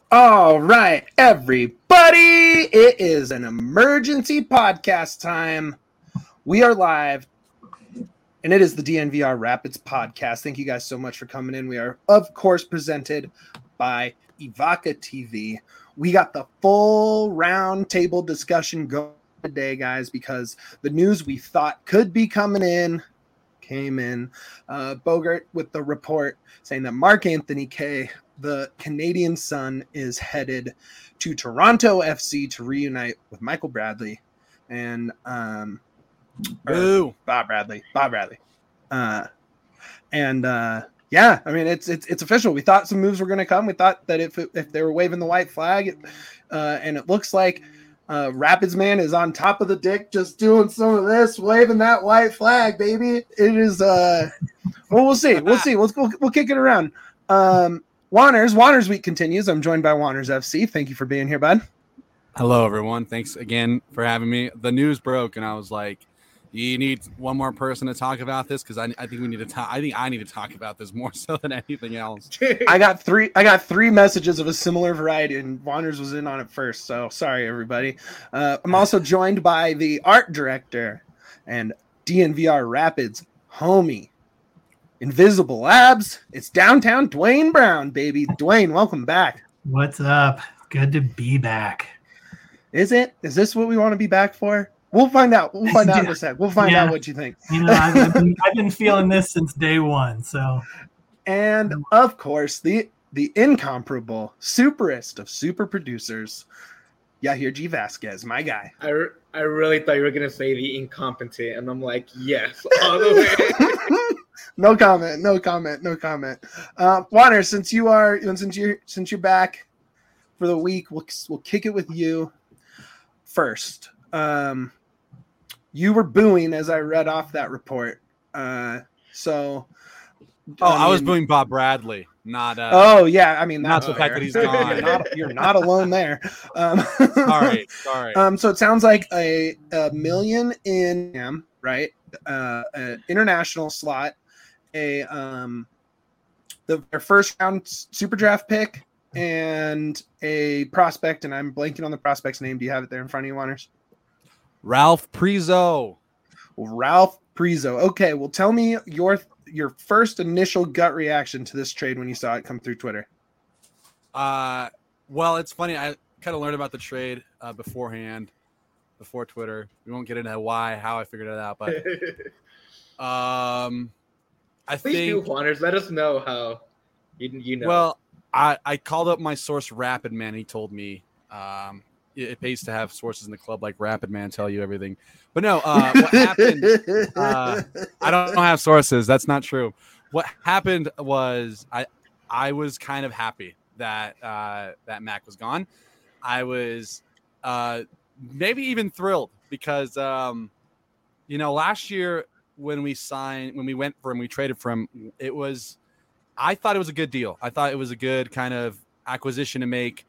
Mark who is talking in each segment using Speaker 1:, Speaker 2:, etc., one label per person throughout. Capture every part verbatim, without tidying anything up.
Speaker 1: All right, everybody, it is an emergency podcast time. We are live, and it is the D N V R Rapids podcast. Thank you guys so much for coming in. We are, of course, presented by Evoca T V. We got the full round table discussion going today, guys, because the news we thought could be coming in came in. Uh, Bogart with the report saying that Mark Anthony Kaye, the Canadian Sun, is headed to Toronto F C to reunite with Michael Bradley and um,
Speaker 2: Boo.
Speaker 1: Bob Bradley. Bob Bradley. Uh, and uh, yeah, I mean it's it's it's official. We thought some moves were going to come. We thought that if if they were waving the white flag, it, uh, and it looks like uh, Rapids man is on top of the dick, just doing some of this, waving that white flag, baby. It is. Uh, well, we'll see. We'll see. We'll we'll, we'll kick it around. Um, Wanners, Wanners week continues. I'm joined by Wanners F C. Thank you for being here, bud.
Speaker 2: Hello, everyone. Thanks again for having me. The news broke, and I was like, "You need one more person to talk about this because I, I think we need to talk. I think I need to talk about this more so than anything else."
Speaker 1: I got three. I got three messages of a similar variety, and Wanners was in on it first. So sorry, everybody. Uh, I'm also joined by the art director and D N V R Rapids homie. Invisible Labs, it's downtown Dwayne Brown, baby. Dwayne, welcome back.
Speaker 3: What's up? Good to be back.
Speaker 1: Is it? Is this what we want to be back for? We'll find out. We'll find out in a sec. We'll find
Speaker 3: yeah.
Speaker 1: out what you think.
Speaker 3: You know, I've, I've, been, I've been feeling this since day one. So,
Speaker 1: and of course, the the incomparable superest of super producers, Yahir G. Vasquez, my guy.
Speaker 4: I, re- I really thought you were gonna say the incompetent, and I'm like, yes, all the way.
Speaker 1: No comment. No comment. No comment. Uh, Warner, since you are, since you're, since you're back for the week, we'll we'll kick it with you first. Um, you were booing as I read off that report. Uh, so,
Speaker 2: oh, I, mean, I was booing Bob Bradley, not. Uh,
Speaker 1: oh yeah, I mean
Speaker 2: that's the fact that he's gone.
Speaker 1: You're not, you're not alone there. Um,
Speaker 2: sorry, sorry.
Speaker 1: Um, so it sounds like a, a million in, right? Uh, an international slot. A um the their first round super draft pick and a prospect, and I'm blanking on the prospect's name. Do you have it there in front of you, Wanners?
Speaker 2: Ralph Prizo.
Speaker 1: Ralph Prizo. Okay, well, tell me your your first initial gut reaction to this trade when you saw it come through Twitter.
Speaker 2: Uh, well, it's funny. I kind of learned about the trade uh, beforehand, before Twitter. We won't get into why, how I figured it out, but um. I
Speaker 4: Please
Speaker 2: think,
Speaker 4: do, Wanners. Let us know how you, you know.
Speaker 2: Well, I, I called up my source, Rapid Man. He told me um, it, it pays to have sources in the club like Rapid Man tell you everything. But no, uh, what happened, uh, I don't have sources. That's not true. What happened was I I was kind of happy that uh, that Mac was gone. I was uh, maybe even thrilled because, um, you know, last year, when we signed, when we went for him, we traded for him, it was, I thought it was a good deal. I thought it was a good kind of acquisition to make.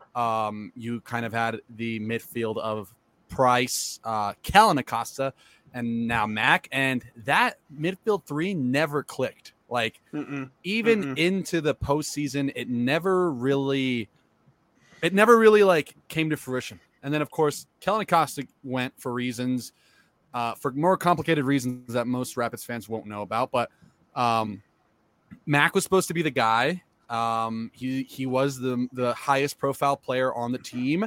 Speaker 2: Um, you kind of had the midfield of Price, uh, Kellen Acosta, and now Mac. And that midfield three never clicked. Like, Mm-mm. even Mm-mm. into the postseason, it never really, it never really like came to fruition. And then, of course, Kellen Acosta went for reasons, Uh, for more complicated reasons that most Rapids fans won't know about. But um, Mac was supposed to be the guy. Um, he he was the the highest profile player on the team.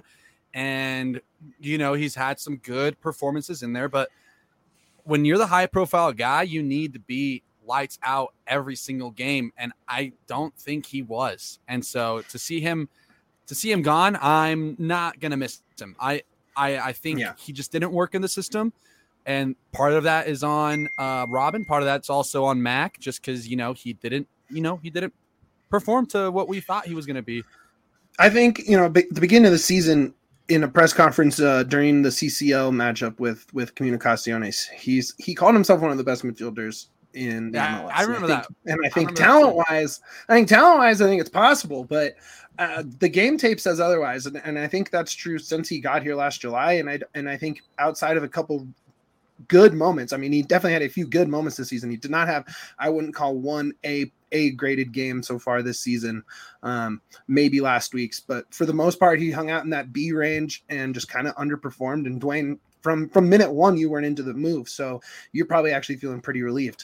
Speaker 2: And, you know, he's had some good performances in there. But when you're the high profile guy, you need to be lights out every single game. And I don't think he was. And so to see him to see him gone, I'm not going to miss him. I, I, I think yeah. he just didn't work in the system. And part of that is on uh, Robin. Part of that's also on Mac, just because, you know, he didn't, you know, he didn't perform to what we thought he was going to be.
Speaker 1: I think, you know, be- the beginning of the season in a press conference uh, during the C C L matchup with with Comunicaciones, he's he called himself one of the best midfielders in the
Speaker 2: yeah,
Speaker 1: M L S.
Speaker 2: I remember
Speaker 1: and I think,
Speaker 2: that.
Speaker 1: And I think talent wise, I think talent wise, I think it's possible, but uh, the game tape says otherwise, and, and I think that's true since he got here last July. And I and I think outside of a couple good moments. I mean, he definitely had a few good moments this season. He did not have, I wouldn't call one a A graded game so far this season, um, maybe last week's, but for the most part, he hung out in that B range and just kind of underperformed. And Dwayne, from from minute one, you weren't into the move, so you're probably actually feeling pretty relieved.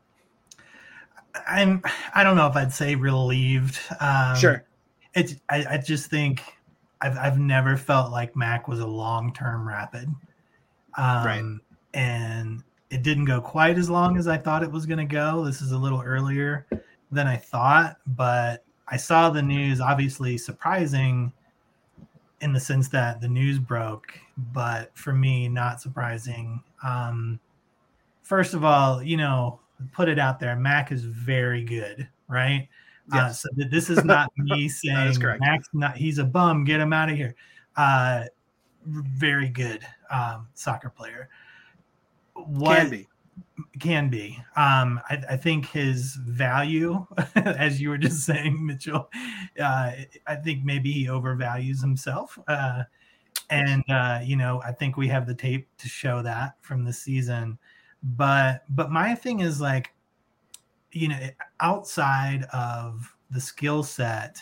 Speaker 3: I'm. I don't know if I'd say relieved. Um,
Speaker 1: sure.
Speaker 3: It's. I, I just think I've. I've never felt like Mac was a long term Rapid, um,
Speaker 1: right?
Speaker 3: And it didn't go quite as long as I thought it was going to go. This is a little earlier than I thought, but I saw the news. Obviously, surprising in the sense that the news broke, but for me, not surprising. Um, first of all, you know. Put it out there. Mac is very good, right?
Speaker 1: Yes.
Speaker 3: Uh, so this is not me saying Mac's not. He's a bum. Get him out of here. Uh, very good um, soccer player. What
Speaker 1: can be
Speaker 3: can be. Um, I, I think his value, as you were just saying, Mitchell. Uh, I think maybe he overvalues himself, uh, and uh, you know, I think we have the tape to show that from the season. But but my thing is like, you know, outside of the skill set,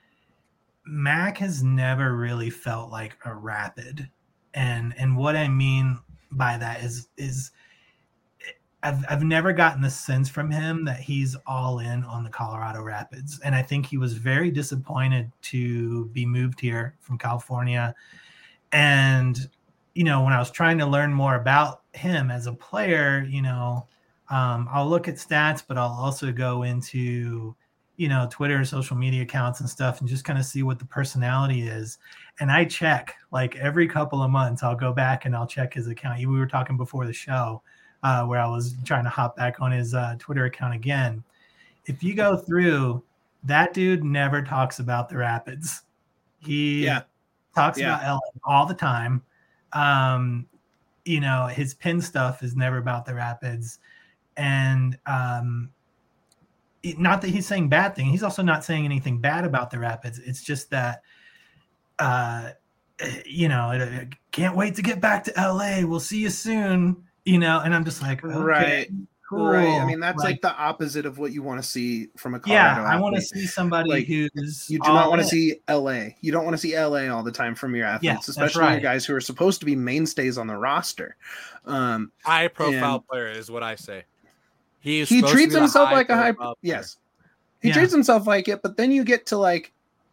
Speaker 3: Mac has never really felt like a Rapid. And and what I mean by that is is I've I've never gotten the sense from him that he's all in on the Colorado Rapids. And I think he was very disappointed to be moved here from California. And you know, when I was trying to learn more about him as a player, you know, um, I'll look at stats, but I'll also go into, you know, Twitter, social media accounts and stuff and just kind of see what the personality is. And I check like every couple of months, I'll go back and I'll check his account. We were talking before the show uh, where I was trying to hop back on his uh, Twitter account again. If you go through, that dude never talks about the Rapids. He
Speaker 1: yeah.
Speaker 3: talks
Speaker 1: yeah.
Speaker 3: about L A all the time. Um, you know, his pin stuff is never about the Rapids. And um, it, not that he's saying bad thing. He's also not saying anything bad about the Rapids. It's just that, uh, you know, can't wait to get back to L A. We'll see you soon, you know? And I'm just like, okay,
Speaker 1: right.
Speaker 3: Cool.
Speaker 1: Right. I mean, that's like, like the opposite of what you want to see from a Colorado
Speaker 3: Yeah, I
Speaker 1: athlete.
Speaker 3: want to see somebody
Speaker 1: like,
Speaker 3: who's
Speaker 1: you do not want to see L A. You don't want to see L A all the time from your athletes,
Speaker 3: yeah,
Speaker 1: especially
Speaker 3: right.
Speaker 1: your guys who are supposed to be mainstays on the roster. Um,
Speaker 2: high profile and, player is what I say. He is
Speaker 1: he treats himself like a high.
Speaker 2: Player.
Speaker 1: Yes, he
Speaker 3: yeah.
Speaker 1: treats himself like it. But then you get to like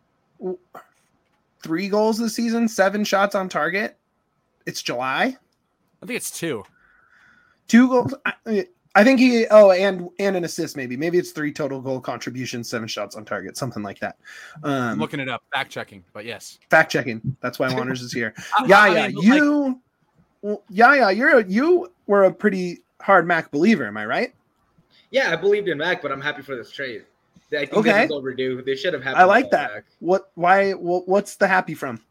Speaker 1: three goals this season, seven shots on target. It's July.
Speaker 2: I think it's two.
Speaker 1: Two goals. I, I think he. Oh, and and an assist. Maybe. Maybe it's three total goal contributions, seven shots on target, something like that. Um,
Speaker 2: I'm looking it up, fact checking. But yes,
Speaker 1: fact checking. That's why Wanders is here.
Speaker 2: I,
Speaker 1: yeah,
Speaker 2: I
Speaker 1: yeah.
Speaker 2: mean,
Speaker 1: You.
Speaker 2: Like,
Speaker 1: well, yeah, yeah. You're a, you were a pretty hard Mac believer. Am I right?
Speaker 4: Yeah, I believed in Mac, but I'm happy for this trade. I think
Speaker 1: okay.
Speaker 4: this is overdue. They should have happened.
Speaker 1: I like that.
Speaker 4: Mac.
Speaker 1: What? Why? What, what's the happy from?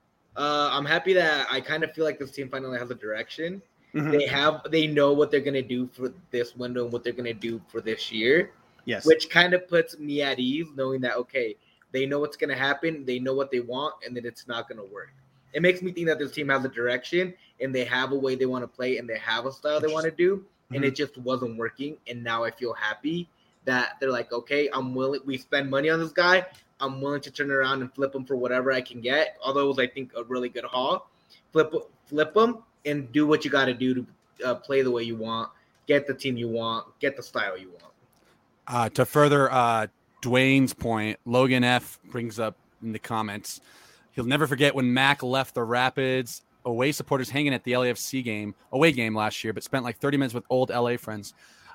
Speaker 4: Uh, I'm happy that I kind of feel like this team finally has a direction.
Speaker 1: Mm-hmm.
Speaker 4: They have, they know what they're gonna do for this window and what they're gonna do for this year.
Speaker 1: Yes,
Speaker 4: which kind of puts me at ease, knowing that okay, they know what's gonna happen, they know what they want, and that it's not gonna work. It makes me think that this team has a direction and they have a way they want to play and they have a style they want to do, mm-hmm. and it just wasn't working. And now I feel happy that they're like, okay, I'm willing. We spend money on this guy. I'm willing to turn around and flip him for whatever I can get. Although it was, I think, a really good haul. Flip, flip him and do what you got to do to uh, play the way you want, get the team you want, get the style you want.
Speaker 2: Uh, to further uh, Dwayne's point, Logan F brings up in the comments, he'll never forget when Mac left the Rapids away supporters hanging at the L A F C game, away game last year, but spent like thirty minutes with old L A friends.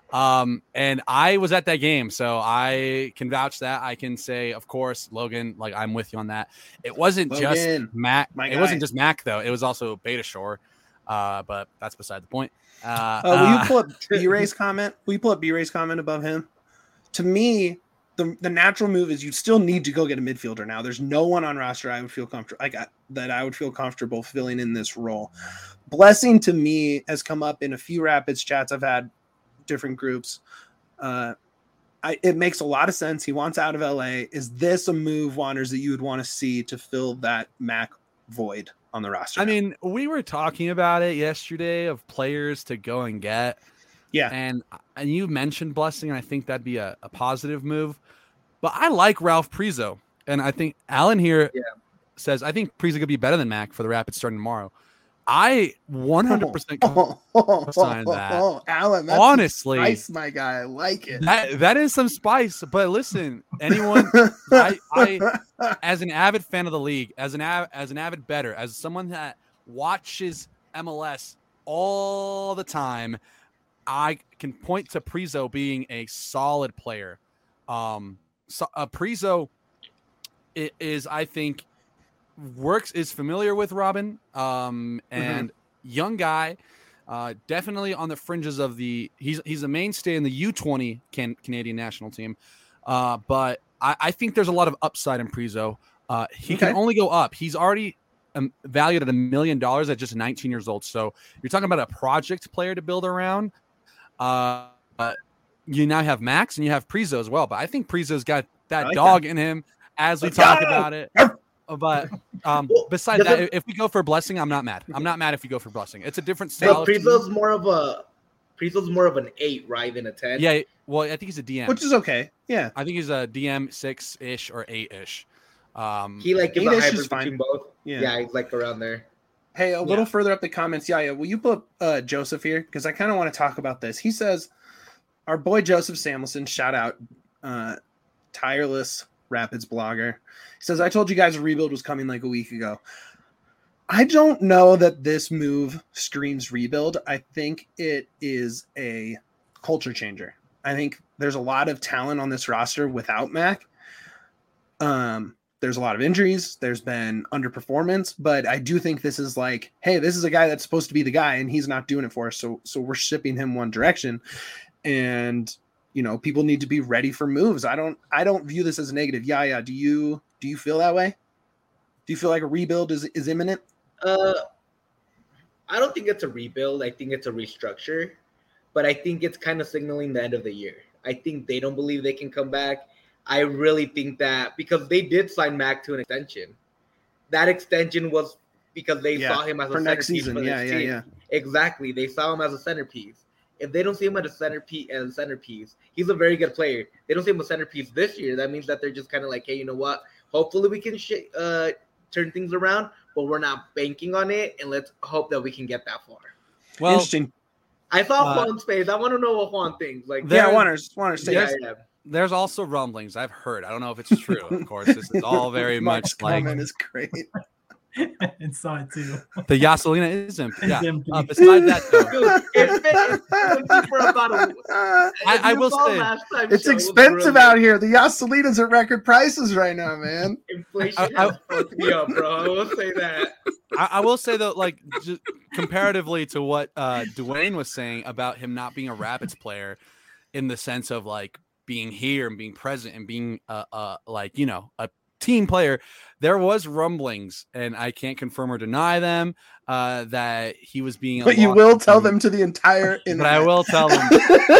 Speaker 2: Um, and I was at that game, so I can vouch that. I can say, of course, Logan, like I'm with you on that. It wasn't
Speaker 1: Logan,
Speaker 2: just Mac.
Speaker 1: it
Speaker 2: guy. wasn't just Mac though. It was also Beta Shore. Uh, but that's beside the point. Uh,
Speaker 1: oh, will
Speaker 2: uh,
Speaker 1: you pull up B-Ray's comment? Will you pull up B-Ray's comment above him? To me, the the natural move is you still need to go get a midfielder now. There's no one on roster I would feel comfortable like I, that I would feel comfortable filling in this role. Blessing to me has come up in a few Rapids chats I've had, different groups. Uh, I, it makes a lot of sense. He wants out of L A. Is this a move, Wanders, that you would want to see to fill that Mac void on the roster?
Speaker 2: I mean, we were talking about it yesterday of players to go and get.
Speaker 1: Yeah.
Speaker 2: And and you mentioned Blessing, and I think that'd be a, a positive move. But I like Ralph Prizo. And I think Alan here
Speaker 4: Yeah.
Speaker 2: says, I think Prizo could be better than Mac for the Rapids starting tomorrow. I one hundred percent
Speaker 1: Oh, oh, oh,
Speaker 2: sign
Speaker 1: oh,
Speaker 2: that.
Speaker 1: oh, Alan, that's
Speaker 2: Honestly,
Speaker 1: nice, my guy. I like it.
Speaker 2: That that is some spice. But listen, anyone, I, I as an avid fan of the league, as an av- as an avid bettor, as someone that watches M L S all the time, I can point to Prizo being a solid player. Um, so, uh, Prizo is, I think, works is familiar with Robin, um, and mm-hmm. young guy, uh, definitely on the fringes of the. He's he's a mainstay in the U twenty can, Canadian national team, uh, but I, I think there's a lot of upside in Prizo. Uh, he okay. can only go up. He's already um, valued at a million dollars at just nineteen years old. So you're talking about a project player to build around. Uh, uh, you now have Max and you have Prizo as well, but I think Prizo's got that like dog that. in him as we Let's talk go. about it. But um, well, besides that, it, if we go for Blessing, I'm not mad. I'm not mad if we go for Blessing. It's a different style.
Speaker 4: Prizo's more of a Prizo's more of an eight, right, than a ten.
Speaker 2: Yeah, well, I think he's a D M,
Speaker 1: which is okay. Yeah,
Speaker 2: I think he's a D M six ish or eight ish. Um,
Speaker 4: he like gives a hybrid between both. Yeah. yeah, he's like around there.
Speaker 1: Hey, a little yeah. further up the comments, yeah, yeah. Will you put uh, Joseph here because I kind of want to talk about this. He says, "Our boy Joseph Samuelson, shout out, uh, tireless Rapids blogger." He says, "I told you guys a rebuild was coming like a week ago." I don't know that this move screams rebuild. I think it is a culture changer. I think there's a lot of talent on this roster without Mac. Um, there's a lot of injuries. There's been underperformance, but I do think this is like, hey, this is a guy that's supposed to be the guy, and he's not doing it for us. So, so we're shipping him one direction, and you know, people need to be ready for moves. I don't, I don't view this as a negative. Yeah, yeah. Do you? Do you feel that way? Do you feel like a rebuild is, is imminent?
Speaker 4: Uh, I don't think it's a rebuild. I think it's a restructure, but I think it's kind of signaling the end of the year. I think they don't believe they can come back. I really think that because they did sign Mac to an extension. That extension was because they yeah, saw him as a
Speaker 1: for next
Speaker 4: centerpiece
Speaker 1: season.
Speaker 4: For
Speaker 1: yeah, yeah,
Speaker 4: team.
Speaker 1: yeah.
Speaker 4: Exactly. They saw him as a centerpiece. If they don't see him as a centerpiece, as a centerpiece, he's a very good player. They don't see him as a centerpiece this year. That means that they're just kind of like, hey, you know what? Hopefully we can sh- uh, turn things around, but we're not banking on it, and let's hope that we can get that far.
Speaker 1: Well, interesting.
Speaker 4: I saw uh, Juan's face. I want to know what Juan thinks. Like,
Speaker 1: yeah, I want to want to say.
Speaker 2: There's, yeah. there's also rumblings I've heard. I don't know if it's true. Of course, this is all very much like.
Speaker 1: Comment is great.
Speaker 3: I saw it too.
Speaker 2: The Yaselina is empty. Yeah. empty. Uh, besides that, though,
Speaker 4: it's been, it's been for about a,
Speaker 2: I, I will say
Speaker 1: it's expensive out here. The Yaselina's at record prices right now, man.
Speaker 4: Inflation I, has I, fucked me up, bro. I will say that.
Speaker 2: I, I will say though, like just comparatively to what uh, Dwayne was saying about him not being a Rapids player, in the sense of like being here and being present and being uh, uh like you know a team player, there was rumblings, and I can't confirm or deny them, uh, that he was being.
Speaker 1: But you will tell them to the entire.
Speaker 2: But I will tell them.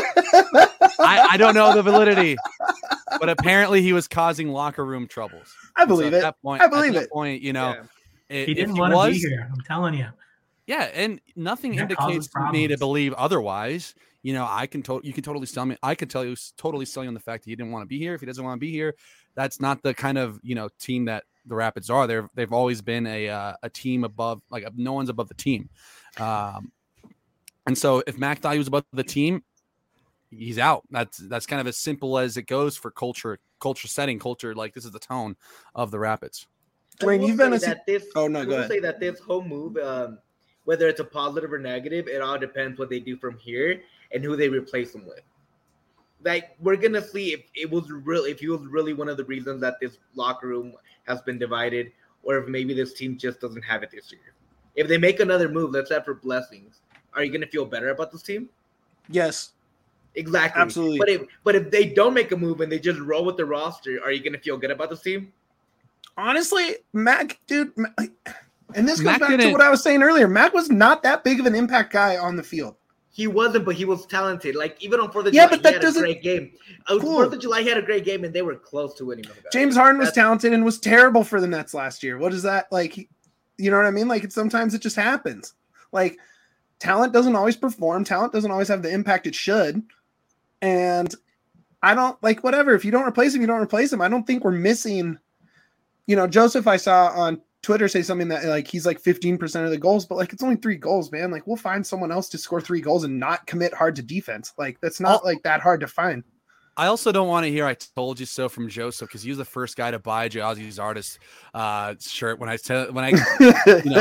Speaker 2: I, I don't know the validity, but apparently he was causing locker room troubles.
Speaker 1: I believe
Speaker 2: so
Speaker 1: it.
Speaker 2: At that point,
Speaker 1: I believe
Speaker 2: at that
Speaker 1: it.
Speaker 2: Point, you know,
Speaker 3: yeah. it, he didn't want to be here. I'm telling you.
Speaker 2: Yeah, and nothing that indicates to me to believe otherwise. You know, I can to- you can totally sell me. I can tell you totally sell you on the fact that he didn't want to be here. If he doesn't want to be here, that's not the kind of you know team that the Rapids are. They're they've always been a uh, a team above, like no one's above the team. Um, and so if Mac thought he was above the team, he's out. That's that's kind of as simple as it goes for culture, culture setting, culture. Like this is the tone of the Rapids.
Speaker 1: Dwayne, you've been a
Speaker 4: that this,
Speaker 1: oh no,
Speaker 4: I
Speaker 1: go
Speaker 4: will
Speaker 1: ahead.
Speaker 4: say that this whole move, um, whether it's a positive or negative, it all depends what they do from here and who they replace them with. Like we're gonna see if it was real, if he was really one of the reasons that this locker room has been divided, or if maybe this team just doesn't have it this year. If they make another move, let's say for Blessings, are you gonna feel better about this team?
Speaker 1: Yes,
Speaker 4: exactly,
Speaker 1: absolutely.
Speaker 4: But if but if they don't make a move and they just roll with the roster, are you gonna feel good about this team?
Speaker 1: Honestly, Mac, dude, and this goes
Speaker 2: Mac
Speaker 1: back
Speaker 2: didn't...
Speaker 1: to what I was saying earlier. Mac was not that big of an impact guy on the field.
Speaker 4: He wasn't, but he was talented. Like, even on fourth of
Speaker 1: yeah,
Speaker 4: July,
Speaker 1: but that
Speaker 4: he had
Speaker 1: doesn't...
Speaker 4: a great game. On
Speaker 1: cool.
Speaker 4: fourth of July, he had a great game, and they were close to winning.
Speaker 1: James Harden was That's... talented and was terrible for the Nets last year. What is that? Like, you know what I mean? Like, it, sometimes it just happens. Like, talent doesn't always perform. Talent doesn't always have the impact it should. And I don't like whatever. If you don't replace him, you don't replace him. I don't think we're missing, you know, Joseph, I saw on Twitter say something that like he's like fifteen percent of the goals, but like it's only three goals, man. Like we'll find someone else to score three goals and not commit hard to defense. Like that's not like that hard to find.
Speaker 2: I also don't want to hear "I told you so" from Joseph because he was the first guy to buy Ozzy Zardes uh, shirt when I said when I you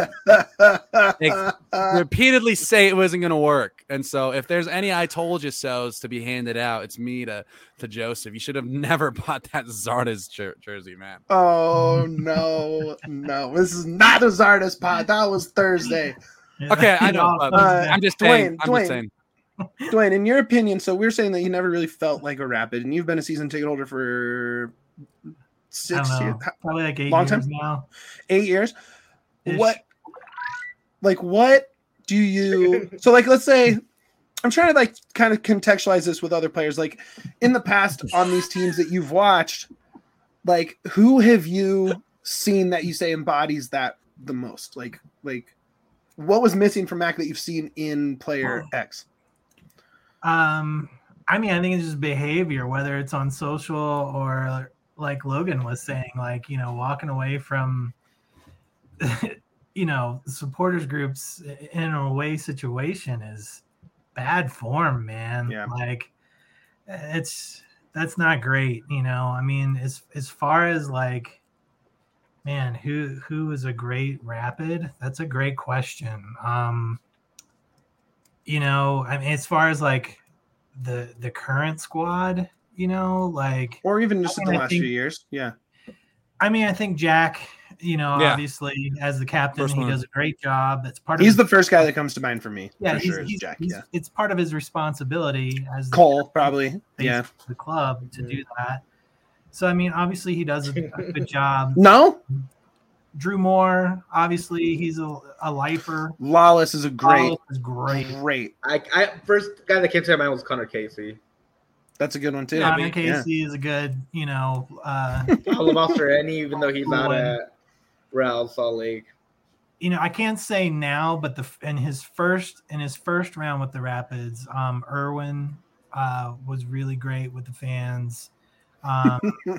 Speaker 2: know like, repeatedly say it wasn't going to work. And so if there's any "I told you so's" to be handed out, it's me to to Joseph. You should have never bought that Zardes jer- jersey, man.
Speaker 1: Oh no, no, this is not a Zardes pod. That was Thursday.
Speaker 2: Okay, I know. But
Speaker 1: Uh,
Speaker 2: I'm just
Speaker 1: Dwayne,
Speaker 2: saying. I'm
Speaker 1: Dwayne.
Speaker 2: just saying.
Speaker 1: Dwayne, in your opinion, so we're saying that you never really felt like a Rapid, and you've been a season ticket holder for
Speaker 3: I
Speaker 1: six
Speaker 3: don't know,
Speaker 1: years,
Speaker 3: probably like eight
Speaker 1: Long
Speaker 3: years
Speaker 1: time?
Speaker 3: now.
Speaker 1: eight years.
Speaker 3: Ish.
Speaker 1: What, like, what do you? So, like, let's say, I'm trying to like kind of contextualize this with other players. Like, in the past, on these teams that you've watched, like, who have you seen that you say embodies that the most? Like, like, what was missing from Mac that you've seen in player X?
Speaker 3: Um, I mean, I think it's just behavior, whether it's on social or like Logan was saying, like, you know, walking away from, you know, supporters groups in an away situation is bad form, man.
Speaker 1: Yeah.
Speaker 3: Like it's, that's not great. You know, I mean, as, as far as like, man, who, who is a great Rapid? That's a great question. Um, You know, I mean, as far as like the the current squad, you know, like,
Speaker 1: Or even just
Speaker 3: I
Speaker 1: in
Speaker 3: mean,
Speaker 1: the
Speaker 3: I
Speaker 1: last
Speaker 3: think-
Speaker 1: few years? Yeah.
Speaker 3: I mean, I think Jack, you know,
Speaker 2: Yeah.
Speaker 3: obviously as the captain,
Speaker 2: First
Speaker 3: he
Speaker 2: one.
Speaker 3: does a great job. That's part of
Speaker 1: He's
Speaker 3: his,
Speaker 1: the first guy that comes to mind for me.
Speaker 3: yeah,
Speaker 1: for
Speaker 3: he's,
Speaker 1: sure, is
Speaker 3: he's,
Speaker 1: Jack.
Speaker 3: he's-
Speaker 1: Yeah.
Speaker 3: it's part of his responsibility as the
Speaker 1: Cole, probably.
Speaker 3: face
Speaker 1: Yeah.
Speaker 3: of the club to do that. So I mean, obviously he does a, a good job.
Speaker 1: No,
Speaker 3: Drew Moore, obviously he's a, a lifer.
Speaker 1: Lawless is a great,
Speaker 3: Wallace is great.
Speaker 1: great.
Speaker 4: I, I first guy that came to my mind was Connor Casey.
Speaker 1: That's a good one too.
Speaker 2: Yeah, I
Speaker 3: Connor
Speaker 2: mean,
Speaker 3: Casey is a good, you know, uh,
Speaker 4: I love Australian, even though he's out
Speaker 3: One.
Speaker 4: at Real Salt Lake.
Speaker 3: you know, I can't say now, but the in his first in his first round with the Rapids, um, Irwin uh, was really great with the fans. Um,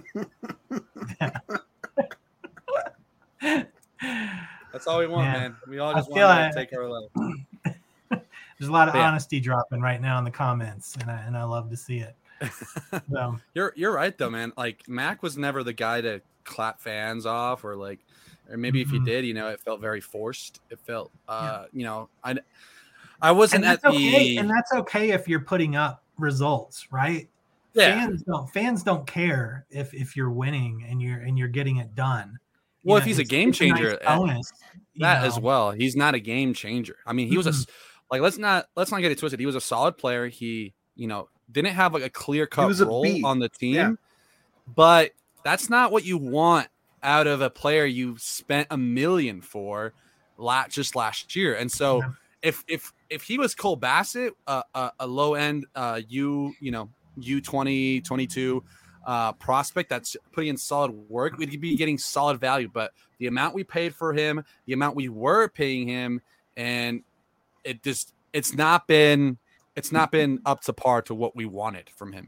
Speaker 2: That's all we want,
Speaker 3: Man,
Speaker 2: man. We all
Speaker 3: I
Speaker 2: just
Speaker 3: feel
Speaker 2: want
Speaker 3: I-
Speaker 2: to take our love.
Speaker 3: there's a lot of
Speaker 2: Yeah.
Speaker 3: honesty dropping right now in the comments, and I and I love to see it. So,
Speaker 2: You're you're right though, man. Like Mac was never the guy to clap fans off, or like, or maybe if he
Speaker 3: Mhm.
Speaker 2: did, you know, it felt very forced. It felt, uh, you know, I I wasn't
Speaker 3: and
Speaker 2: at
Speaker 3: that's
Speaker 2: the
Speaker 3: okay. And that's okay if you're putting up results, right?
Speaker 2: yeah.
Speaker 3: Fans don't fans don't care if if you're winning and you're and you're getting it done. You
Speaker 2: Well,
Speaker 3: know,
Speaker 2: if he's a
Speaker 3: it's-
Speaker 2: game
Speaker 3: it's a nice
Speaker 2: changer, uh,
Speaker 3: bonus, you
Speaker 2: that as
Speaker 3: know.
Speaker 2: well. He's not a game changer. I mean, he was a s- like let's not let's not get it twisted. He was a solid player. He, you know, didn't have like a clear cut
Speaker 1: was a
Speaker 2: role
Speaker 1: B.
Speaker 2: on the team,
Speaker 1: Yeah.
Speaker 2: but that's not what you want out of a player you spent a million for la- just last year. And so
Speaker 3: Yeah.
Speaker 2: if if if he was Cole Bassett, uh, a, a low end uh, U, you know, U twenty, twenty-two uh, prospect that's putting in solid work, we'd be getting solid value. But the amount we paid for him, the amount we were paying him, and it just it's not been it's not been up to par to what we wanted from him.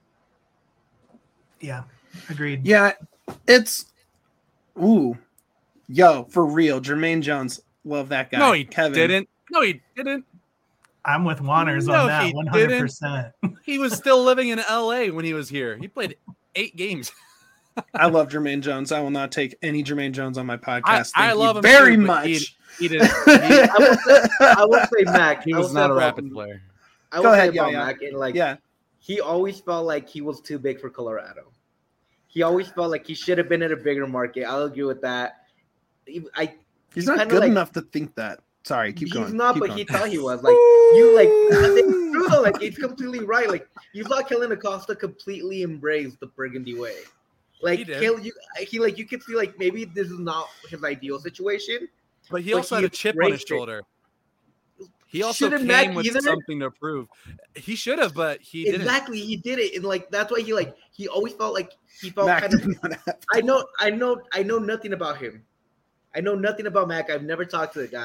Speaker 3: Yeah, agreed.
Speaker 1: Yeah, it's ooh, yo, for real. Jermaine Jones, love that guy.
Speaker 2: No, he
Speaker 1: Kevin
Speaker 2: didn't. No, he didn't.
Speaker 3: I'm with Wanners
Speaker 2: No,
Speaker 3: on
Speaker 2: he
Speaker 3: that
Speaker 2: didn't.
Speaker 3: one hundred percent.
Speaker 2: He was still living in L A when he was here. He played eight games.
Speaker 1: I love Jermaine Jones. I will not take any Jermaine Jones on my podcast.
Speaker 2: I,
Speaker 1: Thank
Speaker 2: I
Speaker 1: you
Speaker 2: love him
Speaker 1: very
Speaker 2: too, but He,
Speaker 1: much.
Speaker 2: he didn't. He,
Speaker 4: I will say, I will say Mac.
Speaker 2: he
Speaker 4: I will
Speaker 2: was
Speaker 4: say
Speaker 2: not a
Speaker 4: about-
Speaker 2: rapid player.
Speaker 4: I will
Speaker 1: Go
Speaker 4: say
Speaker 1: ahead,
Speaker 4: about
Speaker 1: yeah, yeah.
Speaker 4: Mac, and like
Speaker 1: Yeah,
Speaker 4: he always felt like he was too big for Colorado. He always felt like he should have been in a bigger market. I'll agree with that. He- I
Speaker 1: he's not
Speaker 4: kinda
Speaker 1: good
Speaker 4: like-
Speaker 1: enough to think that. Sorry, keep
Speaker 4: he's
Speaker 1: going.
Speaker 4: not,
Speaker 1: keep
Speaker 4: but
Speaker 1: going.
Speaker 4: he thought he was. Like you, like it's true though. Like it's completely right. Like you thought Kellen Acosta completely embraced the Burgundy way. Like
Speaker 2: He did.
Speaker 4: Kill, you, he like you could see like maybe this is not his ideal situation.
Speaker 2: But he
Speaker 4: But
Speaker 2: also
Speaker 4: he
Speaker 2: had a chip on his
Speaker 4: embraced it.
Speaker 2: shoulder. He also
Speaker 4: Shouldn't
Speaker 2: came
Speaker 4: Mac
Speaker 2: with
Speaker 4: either?
Speaker 2: something to prove. He should have, but he didn't.
Speaker 4: Exactly, he did it, and like that's why he like he always felt like he felt
Speaker 1: Mac
Speaker 4: kind of.
Speaker 1: did not have-
Speaker 4: I know, I know, I know nothing about him. I know nothing about Mac. I've never talked to the guy,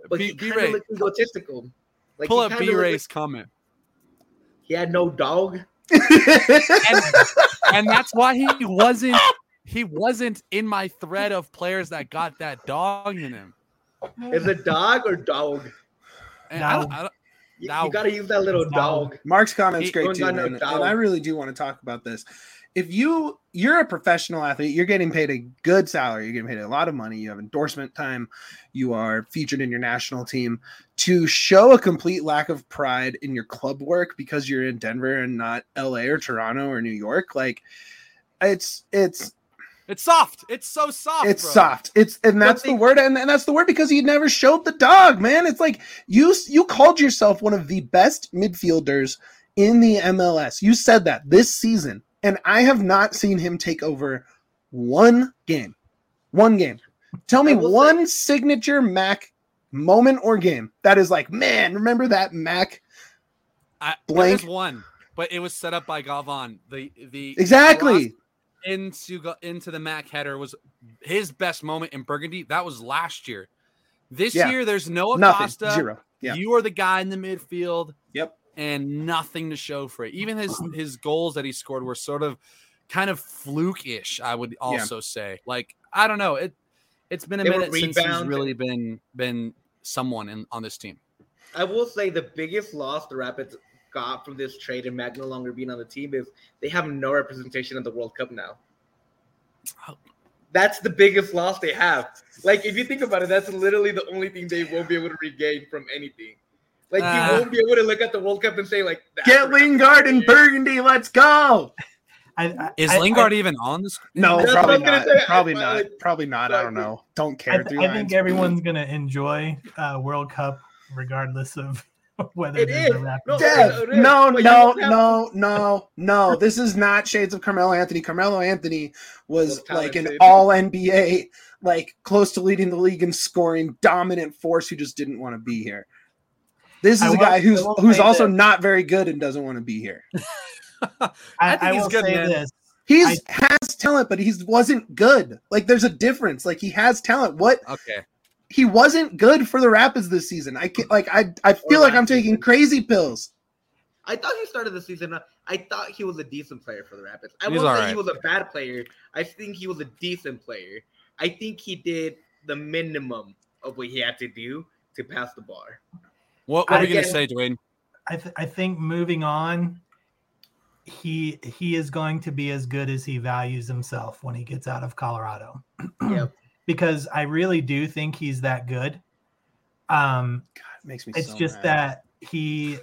Speaker 4: but
Speaker 2: B-
Speaker 4: he kind
Speaker 2: B-Ray,
Speaker 4: of looked egotistical. Like
Speaker 2: pull
Speaker 4: he
Speaker 2: up
Speaker 4: kinda looked
Speaker 2: B-Ray's
Speaker 4: like
Speaker 2: comment.
Speaker 4: he had no dog.
Speaker 2: and, and that's why he wasn't he wasn't in my thread of players that got that dog in him.
Speaker 4: Is it dog or dog?
Speaker 2: And I don't, I don't,
Speaker 4: You,
Speaker 2: Dog.
Speaker 4: you got to use that little
Speaker 3: Dog.
Speaker 4: dog.
Speaker 1: Mark's comment's
Speaker 2: He-
Speaker 1: great
Speaker 4: Don't
Speaker 1: too,
Speaker 4: got no
Speaker 1: man. And
Speaker 4: doubt.
Speaker 1: I really do want to talk about this. If you you're a professional athlete, you're getting paid a good salary, you're getting paid a lot of money, you have endorsement time, you are featured in your national team. To show a complete lack of pride in your club work because you're in Denver and not L A or Toronto or New York, like it's it's
Speaker 2: it's soft. It's so soft.
Speaker 1: it's
Speaker 2: bro.
Speaker 1: soft. It's and that's
Speaker 4: But they-
Speaker 1: the word, and, and that's the word because he never showed the dog, man. It's like you you called yourself one of the best midfielders in the M L S. You said that this season, and I have not seen him take over one game. One game. Tell me
Speaker 4: I will
Speaker 1: one signature Mac moment or game that is like, man, remember that Mac?
Speaker 2: I,
Speaker 1: Blank.
Speaker 2: There was one, but it was set up by Galvan. The the
Speaker 1: Exactly.
Speaker 2: cross into go- into the Mac header was his best moment in Burgundy. That was last year. This
Speaker 1: Yeah.
Speaker 2: year, there's no
Speaker 1: Nothing.
Speaker 2: Acosta.
Speaker 1: Zero. Yeah.
Speaker 2: You are the guy in the midfield.
Speaker 1: Yep.
Speaker 2: And nothing to show for it. Even his his goals that he scored were sort of kind of fluke-ish, I would also say. Like, I don't know. It it's been a
Speaker 4: They were
Speaker 2: minute since he's
Speaker 4: rebound.
Speaker 2: really been been someone in on this team.
Speaker 4: I will say the biggest loss the Rapids got from this trade and Mac no longer being on the team is they have no representation at the World Cup now. That's the biggest loss they have. Like, if you think about it, that's literally the only thing they won't be able to regain from anything. Like,
Speaker 2: Uh,
Speaker 4: you won't be able to look at the World Cup and say, like, that's
Speaker 1: Get
Speaker 4: what
Speaker 1: Lingard and
Speaker 4: happened.
Speaker 1: Burgundy. Let's go.
Speaker 3: I, I,
Speaker 2: Is
Speaker 3: I-
Speaker 2: Lingard even on this?
Speaker 1: No,
Speaker 4: That's
Speaker 1: probably
Speaker 4: what I
Speaker 1: not.
Speaker 4: was gonna say.
Speaker 1: Probably
Speaker 4: I-
Speaker 1: not.
Speaker 4: like-
Speaker 1: Probably not. I don't know. Don't care.
Speaker 3: I,
Speaker 1: Three
Speaker 3: I
Speaker 1: lines.
Speaker 3: think everyone's gonna enjoy uh, World Cup regardless of whether
Speaker 4: It
Speaker 3: there's a
Speaker 4: is.
Speaker 3: Rapids.
Speaker 4: No,
Speaker 1: Dev,
Speaker 4: it is.
Speaker 1: no,
Speaker 4: But you
Speaker 1: no,
Speaker 4: don't have-
Speaker 1: no, no, no. This is not shades of Carmelo Anthony. Carmelo Anthony was
Speaker 4: Was
Speaker 1: like an
Speaker 4: talented.
Speaker 1: all N B A, like close to leading the league in scoring, dominant force who just didn't want to be here. This is
Speaker 3: I
Speaker 1: a
Speaker 3: will-
Speaker 1: guy who's
Speaker 3: I will
Speaker 1: who's
Speaker 3: say
Speaker 1: also
Speaker 3: this.
Speaker 1: not very good and doesn't want to be here.
Speaker 3: I,
Speaker 2: I think
Speaker 3: I
Speaker 2: he's
Speaker 3: will
Speaker 2: good,
Speaker 3: say
Speaker 2: man.
Speaker 3: this.
Speaker 1: He's has talent, but he wasn't good. Like there's a difference. Like he has talent. What
Speaker 2: Okay.
Speaker 1: he wasn't good for the Rapids this season. I can't, like I I feel
Speaker 4: Or
Speaker 1: like I'm
Speaker 4: last
Speaker 1: taking
Speaker 4: season.
Speaker 1: crazy pills.
Speaker 4: I thought he started the season. I thought he was a decent player for the Rapids. I
Speaker 2: He's
Speaker 4: won't say
Speaker 2: alright.
Speaker 4: he was a bad player. I think he was a decent player. I think he did the minimum of what he had to do to pass the bar.
Speaker 2: What, what are you
Speaker 4: Again-
Speaker 2: gonna say, Dwayne?
Speaker 3: I, th- I think moving on, he he is going to be as good as he values himself when he gets out of Colorado.
Speaker 4: Yep.
Speaker 3: Because I really do think he's that good. Um,
Speaker 1: God, it makes me.
Speaker 3: it's
Speaker 1: so
Speaker 3: just
Speaker 1: mad.
Speaker 3: that he,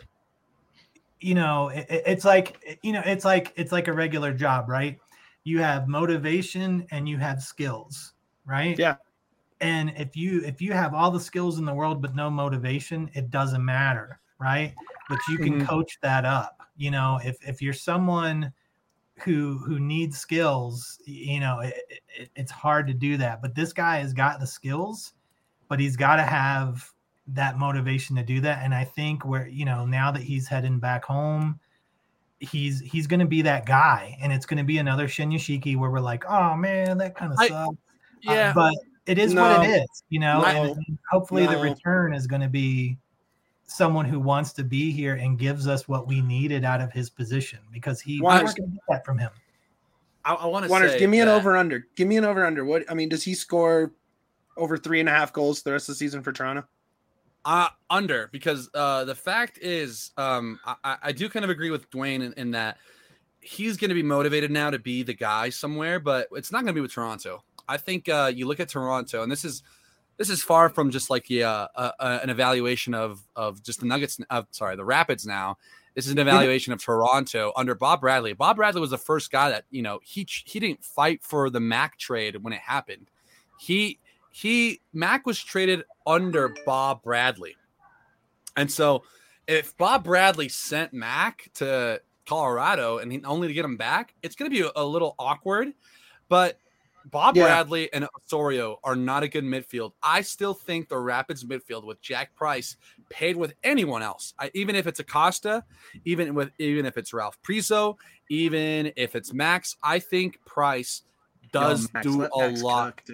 Speaker 3: you know, it, it- it's like you know, it's like it's like a regular job, right? You have motivation and you have skills, right?
Speaker 1: Yeah.
Speaker 3: And if you if you have all the skills in the world but no motivation, it doesn't matter, right? But you can
Speaker 1: Mhm.
Speaker 3: coach that up. You know, if if you're someone who who needs skills, you know, it, it, it's hard to do that. But this guy has got the skills, but he's got to have that motivation to do that. And I think where you know now that he's heading back home, he's he's going to be that guy, and it's going to be another Shinyashiki where we're like, oh man, that kind of
Speaker 2: I-
Speaker 3: sucks.
Speaker 2: Yeah.
Speaker 3: Uh, but it is
Speaker 1: No.
Speaker 3: what it is, you know.
Speaker 1: No.
Speaker 3: And, and hopefully the
Speaker 1: No.
Speaker 3: return is going to be someone who wants to be here and gives us what we needed out of his position because he we're
Speaker 1: Wonders-
Speaker 3: not going to get that from him.
Speaker 2: I, I want to
Speaker 1: Wonders,
Speaker 2: say.
Speaker 1: give me an
Speaker 2: that-
Speaker 1: over under. Give me an over under. What I mean, does he score over three and a half goals the rest of the season for Toronto?
Speaker 2: Uh, under because uh, the fact is, um, I, I- I do kind of agree with Dwayne in, in that he's going to be motivated now to be the guy somewhere, but it's not going to be with Toronto. I think uh, you look at Toronto, and this is this is far from just like yeah, uh, uh, an evaluation of of just the Nuggets. Uh, sorry, the Rapids. Now, this is an evaluation of Toronto under Bob Bradley. Bob Bradley was the first guy that you know he he didn't fight for the Mac trade when it happened. He he Mac was traded under Bob Bradley. And so if Bob Bradley sent Mac to Colorado and he, only to get him back, it's going to be a, a little awkward. But Bob
Speaker 1: Yeah.
Speaker 2: Bradley and Osorio are not a good midfield. I still think the Rapids midfield with Jack Price paid with anyone else, I, even if it's Acosta, even with even if it's Ralph Priso, even if it's Max, I think Price does
Speaker 1: Yo, Max,
Speaker 2: do
Speaker 1: let
Speaker 2: a
Speaker 1: Max
Speaker 2: lot.
Speaker 1: cook, dude.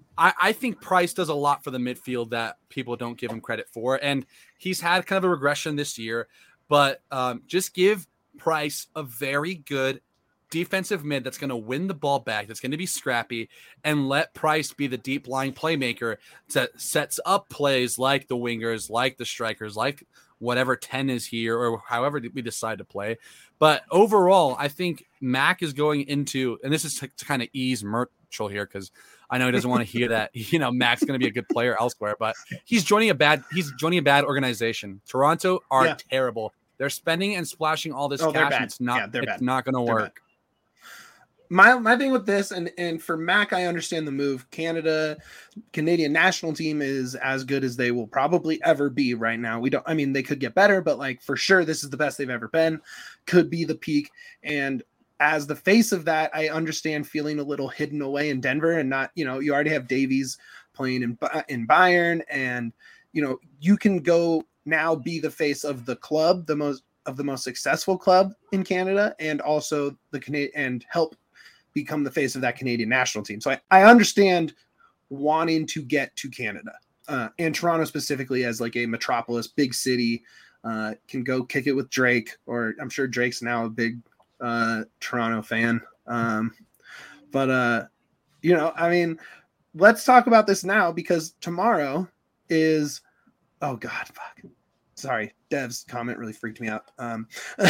Speaker 2: I, I think Price does a lot for the midfield that people don't give him credit for. And he's had kind of a regression this year, but um, just give Price a very good defensive mid that's going to win the ball back, that's going to be scrappy, and let Price be the deep lying playmaker that sets up plays like the wingers, like the strikers, like whatever ten is here or however we decide to play. But overall, I think Mac is going into, and this is to, to kind of ease Mitchell here because I know he doesn't want to hear that, you know, Mac's going to be a good player elsewhere, but he's joining a bad, he's joining a bad organization. Toronto are yeah. terrible. They're spending and splashing all this
Speaker 1: oh,
Speaker 2: cash. And it's not, yeah, it's not going to work.
Speaker 1: Bad. My my thing with this, and, and for Mac, I understand the move. Canada, Canadian national team is as good as they will probably ever be right now. We don't, I mean, they could get better, but like for sure, this is the best they've ever been. Could be the peak. And as the face of that, I understand feeling a little hidden away in Denver and not, you know, you already have Davies playing in in Bayern, and you know, you can go now be the face of the club, the most of the most successful club in Canada, and also the Canadian and help become the face of that Canadian national team. So I, I understand wanting to get to Canada uh, and Toronto specifically as like a metropolis, big city, uh, can go kick it with Drake, or I'm sure Drake's now a big uh, Toronto fan. Um, but, uh, you know, I mean, let's talk about this now because tomorrow is, oh God, fuck. Sorry. Dev's comment really freaked me out. Um,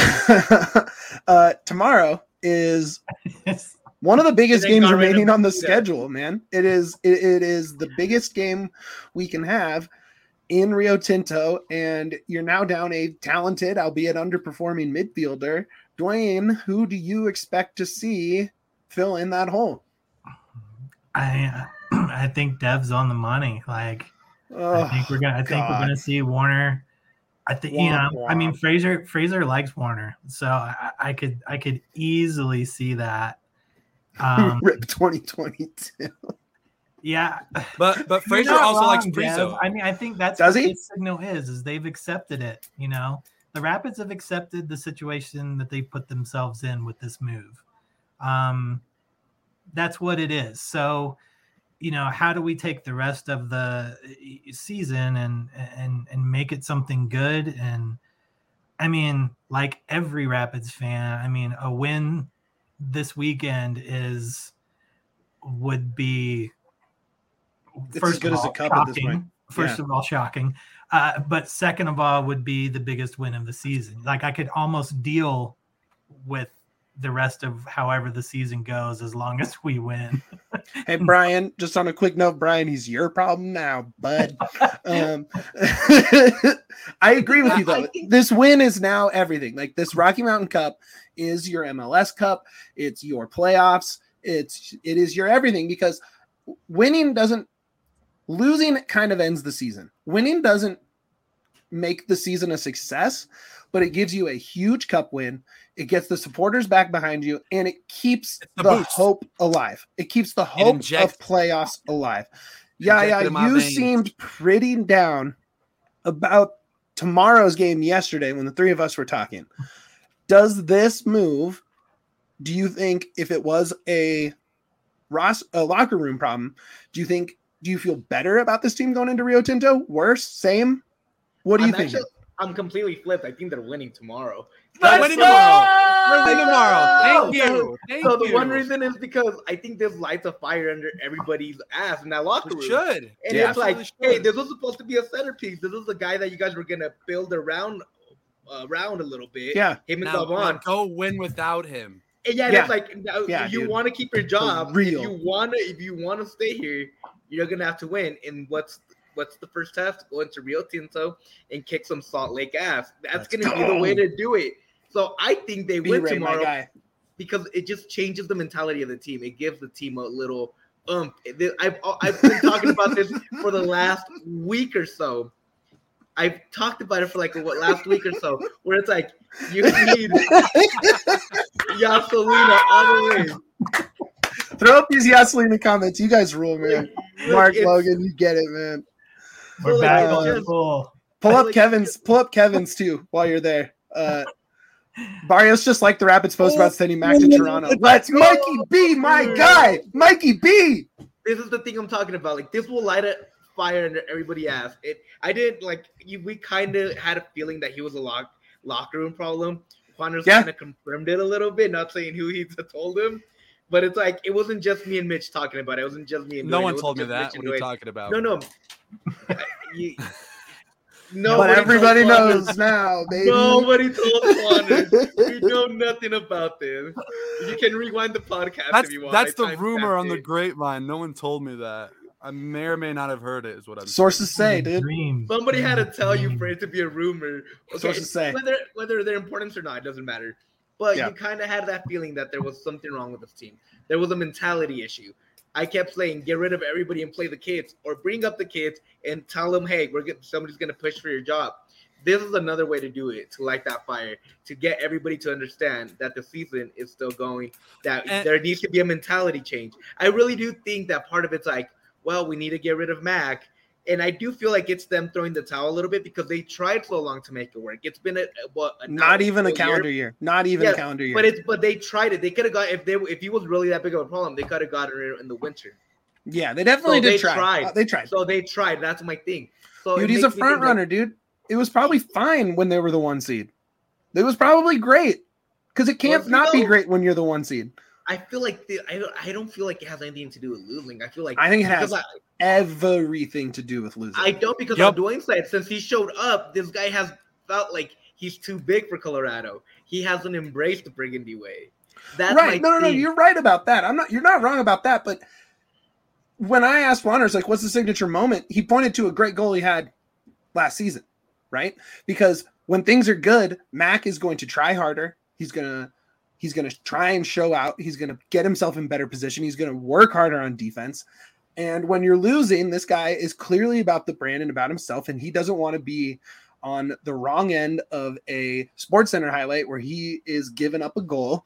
Speaker 1: uh, tomorrow is one of the biggest games remaining on the schedule, man. It is it, it is the biggest game we can have in Rio Tinto, and you're now down a talented, albeit underperforming midfielder. Dwayne, who do you expect to see fill in that hole?
Speaker 3: I I think Dev's on the money. Like oh, I think we're gonna I think God. we're gonna see Warner. I think you know. Wah. I mean, Fraser Fraser likes Warner, so I, I could I could easily see that. Um,
Speaker 1: Rip twenty twenty-two.
Speaker 3: Yeah,
Speaker 2: but but Fraser also wrong, likes Priso.
Speaker 3: I mean, I think that's
Speaker 1: Does
Speaker 3: what
Speaker 1: he?
Speaker 3: the signal is. Is they've accepted it. You know, the Rapids have accepted the situation that they put themselves in with this move. Um, that's what it is. So, you know, how do we take the rest of the season and and and make it something good? And I mean, like every Rapids fan, I mean, a win this weekend is would be
Speaker 1: it's
Speaker 3: first
Speaker 1: as good
Speaker 3: of all,
Speaker 1: as a cup
Speaker 3: shocking.
Speaker 1: At this point.
Speaker 3: First
Speaker 1: yeah.
Speaker 3: of all, shocking. Uh, but second of all, would be the biggest win of the season. Like I could almost deal with the rest of however the season goes as long as we win.
Speaker 1: Hey, Brian, just on a quick note, Brian, he's your problem now, bud. um, I agree with you, though. This win is now everything. Like this Rocky Mountain Cup is your M L S Cup. It's your playoffs. It's it is your everything because winning doesn't losing kind of ends the season. Winning doesn't make the season a success, but it gives you a huge cup win. It gets the supporters back behind you, and it keeps the, the hope alive. It keeps the hope of playoffs alive. Yeah, yeah, you veins. seemed pretty down about tomorrow's game yesterday when the three of us were talking. Does this move, do you think if it was a, Ross, a locker room problem, do you think, do you feel better about this team going into Rio Tinto? Worse? Same? What do you think?
Speaker 4: I'm completely flipped. I think they're winning tomorrow.
Speaker 2: They're winning tomorrow. They're winning tomorrow. Thank you. Thank
Speaker 4: so
Speaker 2: you.
Speaker 4: the one reason is because I think there's lights of fire under everybody's ass in that locker room.
Speaker 2: It should.
Speaker 4: And yeah, it's like, should. hey, this was supposed to be a centerpiece. This is the guy that you guys were gonna build around, uh, around a little bit.
Speaker 1: Yeah.
Speaker 4: Him and
Speaker 2: now,
Speaker 4: Gavon.
Speaker 2: Go win without him.
Speaker 4: And yeah,
Speaker 1: yeah.
Speaker 4: it's like yeah, you want to keep your job.
Speaker 1: Real.
Speaker 4: If you wanna, if you wanna stay here, you're gonna have to win. And what's What's the first test? Go into Rio Tinto and kick some Salt Lake ass. That's going to be the way to do it. So I think they win
Speaker 1: B-Ray,
Speaker 4: tomorrow because it just changes the mentality of the team. It gives the team a little um. I've I've been talking about this for the last week or so. I've talked about it for like what last week or so, where it's like you need Yaselina all the way.
Speaker 1: Throw up these Yaselina comments. You guys rule, man. Mark it's, Logan, you get it, man.
Speaker 3: We're so back like, on the full.
Speaker 1: Pull up like, Kevin's. Pull up Kevin's too while you're there. Uh, Barrios just like the Rapids post about sending Mac to Toronto. Let's Mikey B, my guy, Mikey B.
Speaker 4: this is the thing I'm talking about. Like this will light a fire under everybody's ass. It. I did like you. We kind of had a feeling that he was a lock locker room problem. Juaner's
Speaker 1: Yeah.
Speaker 4: kind of confirmed it a little bit. Not saying who he told him, but it's like it wasn't just me and Mitch talking about it. It wasn't just me and
Speaker 2: No
Speaker 4: Dwayne.
Speaker 2: one
Speaker 4: It
Speaker 2: told me
Speaker 4: wasn't just
Speaker 2: that.
Speaker 4: Mitch
Speaker 2: What are
Speaker 4: and
Speaker 2: you
Speaker 4: Dwayne.
Speaker 2: talking about?
Speaker 4: No, no. you,
Speaker 1: But
Speaker 4: nobody
Speaker 1: everybody
Speaker 4: told Juaner.
Speaker 1: knows now, baby.
Speaker 4: Nobody told Juaner. We know nothing about this. You can rewind the podcast
Speaker 2: That's
Speaker 4: if you want.
Speaker 2: that's
Speaker 4: I
Speaker 2: the rumor
Speaker 4: timestamped
Speaker 2: on the
Speaker 4: it.
Speaker 2: grapevine. No one told me that. I may or may not have heard it. Is what I'm
Speaker 1: Sources say, dude.
Speaker 3: Dream.
Speaker 4: Somebody had to tell you
Speaker 3: Dream.
Speaker 4: for it to be a rumor. Okay,
Speaker 1: Sources say.
Speaker 4: whether whether they're important or not, it doesn't matter. But
Speaker 1: Yeah.
Speaker 4: you kind of had that feeling that there was something wrong with this team. There was a mentality issue. I kept saying, get rid of everybody and play the kids, or bring up the kids and tell them, hey, we're get, somebody's going to push for your job. This is another way to do it, to light that fire, to get everybody to understand that the season is still going, that
Speaker 2: And-
Speaker 4: there needs to be a mentality change. I really do think that part of it's like, well, we need to get rid of Mac. And I do feel like it's them throwing the towel a little bit because they tried so long to make it work. It's been a what a
Speaker 1: Not even a
Speaker 4: full year.
Speaker 1: calendar year. Not even
Speaker 4: Yeah,
Speaker 1: a calendar year.
Speaker 4: But it's but they tried it. They could have got if they if he was really that big of a problem, they could have gotten it in the winter.
Speaker 1: yeah, they definitely
Speaker 4: So
Speaker 1: did
Speaker 4: they
Speaker 1: try.
Speaker 4: tried.
Speaker 1: Uh, they tried.
Speaker 4: So they tried. That's my thing. So it
Speaker 1: Dude, he's a
Speaker 4: makes me
Speaker 1: front
Speaker 4: think, like,
Speaker 1: runner, dude. It was probably fine when they were the one seed. It was probably great because it can't
Speaker 4: Was he
Speaker 1: not be
Speaker 4: though?
Speaker 1: great when you're the one seed.
Speaker 4: I feel like the, I don't I don't feel like it has anything to do with losing. I feel like
Speaker 1: I think it has
Speaker 4: because
Speaker 1: everything to do with losing.
Speaker 4: I, I don't because
Speaker 2: Yep.
Speaker 4: on Dwayne's side, since he showed up, this guy has felt like he's too big for Colorado. He hasn't embraced the Burgundy way. That's
Speaker 1: right?
Speaker 4: my
Speaker 1: No, no, no.
Speaker 4: thing.
Speaker 1: You're right about that. I'm not. You're not wrong about that. But when I asked Wanners, like, what's the signature moment? He pointed to a great goal he had last season, right? Because when things are good, Mac is going to try harder. He's gonna he's gonna try and show out. He's gonna get himself in better position. He's gonna work harder on defense. And when you're losing, this guy is clearly about the brand and about himself, and he doesn't want to be on the wrong end of a Sports Center highlight where he is giving up a goal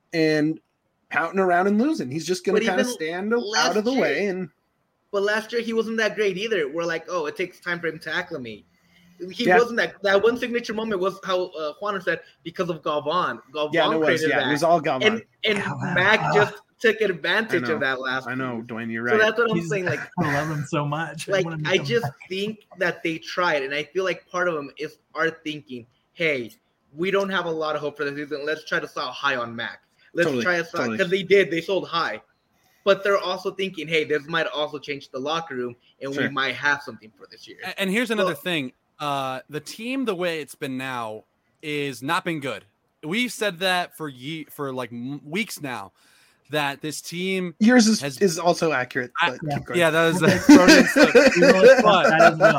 Speaker 1: and pouting around and losing. He's just going
Speaker 4: But
Speaker 1: to kind of
Speaker 4: even
Speaker 1: stand
Speaker 4: last
Speaker 1: out of the
Speaker 4: year-
Speaker 1: way. And
Speaker 4: But last year he wasn't that great either. We're like, oh, it takes time for him to acclimate. He
Speaker 1: Yeah.
Speaker 4: wasn't that. That one signature moment was how uh, Juaner said because of Galvan. Galvan
Speaker 1: yeah, it was.
Speaker 4: created
Speaker 1: Yeah,
Speaker 4: that,
Speaker 1: it was all Galvan.
Speaker 4: and and
Speaker 3: Galvan.
Speaker 4: Mac
Speaker 3: Ah.
Speaker 4: just took advantage
Speaker 1: I know.
Speaker 4: of that last.
Speaker 1: I know,
Speaker 4: piece.
Speaker 1: Dwayne, you're
Speaker 4: So
Speaker 1: right.
Speaker 4: that's what I'm
Speaker 3: He's-
Speaker 4: saying. Like,
Speaker 3: I love him so much.
Speaker 4: like
Speaker 3: wanna
Speaker 4: I
Speaker 3: make him
Speaker 4: just
Speaker 3: back.
Speaker 4: think that they tried, and I feel like part of them is are thinking, hey, we don't have a lot of hope for the season. Let's try to sell high on Mac. Let's
Speaker 1: Totally,
Speaker 4: try to sell
Speaker 1: totally.
Speaker 4: because they did. They sold high. But they're also thinking, hey, this might also change the locker room, and
Speaker 1: Sure.
Speaker 4: we might have something for this year.
Speaker 2: And here's another
Speaker 4: Well-
Speaker 2: thing. Uh, the team, the way it's been now, is not been good. We've said that for ye- for like m- weeks now, that this team.
Speaker 1: Yours is,
Speaker 2: has-
Speaker 1: is also accurate.
Speaker 2: I-
Speaker 1: But
Speaker 3: yeah.
Speaker 1: keep going.
Speaker 2: Yeah, that was.
Speaker 3: Okay.
Speaker 2: thrown in some-
Speaker 3: We will accept that as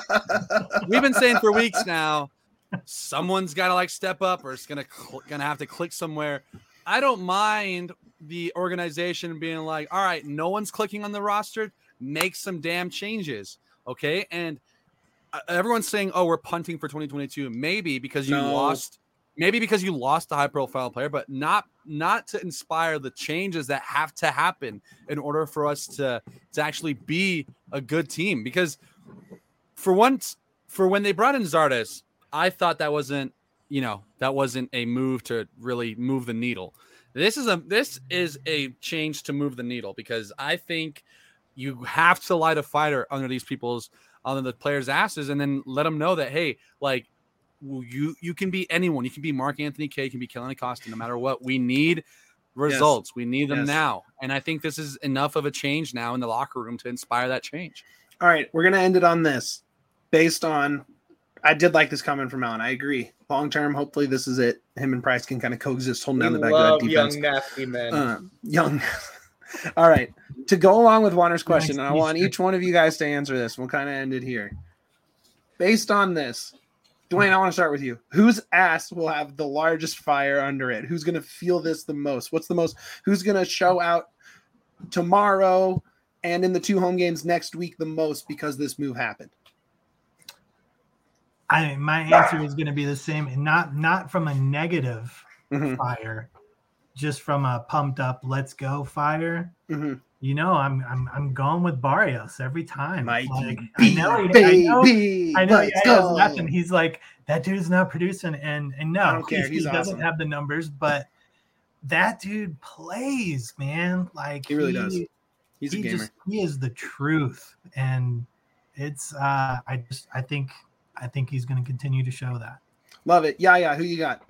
Speaker 3: well.
Speaker 2: We've been saying for weeks now, someone's got to like step up, or it's gonna cl- gonna have to click somewhere. I don't mind the organization being like, all right, no one's clicking on the roster, make some damn changes, okay? And uh, everyone's saying, oh, we're punting for twenty twenty-two, maybe because you
Speaker 1: No.
Speaker 2: lost, maybe because you lost a high-profile player, but not not to inspire the changes that have to happen in order for us to to actually be a good team. Because for once, for when they brought in Zardes, I thought that wasn't, you know, that wasn't a move to really move the needle. This is a this is a change to move the needle, because I think you have to light a fire under these people's under the players' asses, and then let them know that, hey, like, you you can be anyone. You can be Mark Anthony Kaye, you can be Kellyn Acosta, no matter what. We need results. We need them
Speaker 1: Yes.
Speaker 2: now. And I think this is enough of a change now in the locker room to inspire that change.
Speaker 1: All right, we're gonna end it on this. Based on, I did like this comment from Alan. I agree. Long term, hopefully this is it. Him and Price can kind of coexist, holding
Speaker 4: We
Speaker 1: down the back
Speaker 4: love
Speaker 1: of that defense.
Speaker 4: young nasty men.
Speaker 1: Uh, young. All right. To go along with Wanner's question,
Speaker 3: Nice
Speaker 1: and I want
Speaker 3: Easter.
Speaker 1: each one of you guys to answer this. We'll kind of end it here. Based on this, Dwayne, I want to start with you. Whose ass will have the largest fire under it? Who's going to feel this the most? What's the most? Who's going to show out tomorrow and in the two home games next week the most because this move happened?
Speaker 3: I my answer is going to be the same, and not not from a negative
Speaker 1: Mhm.
Speaker 3: fire, just from a pumped up, let's go fire.
Speaker 1: Mhm.
Speaker 3: You know, I'm I'm I'm going with Barrios every time.
Speaker 1: Mikey
Speaker 3: Like, I
Speaker 1: B,
Speaker 3: know, he- I
Speaker 1: baby.
Speaker 3: know, I know.
Speaker 1: Let's
Speaker 3: yeah, I was
Speaker 1: go.
Speaker 3: laughing. He's like, that dude's not producing, and and no,
Speaker 1: I don't care.
Speaker 3: he's-
Speaker 1: He's
Speaker 3: he doesn't
Speaker 1: awesome.
Speaker 3: have the numbers, but that dude plays, man. Like
Speaker 1: He really does. He's
Speaker 3: he
Speaker 1: a gamer.
Speaker 3: just he is the truth, and it's uh, I just I think I think he's going to continue to show that.
Speaker 1: Love it. Yeah, yeah. Who you got?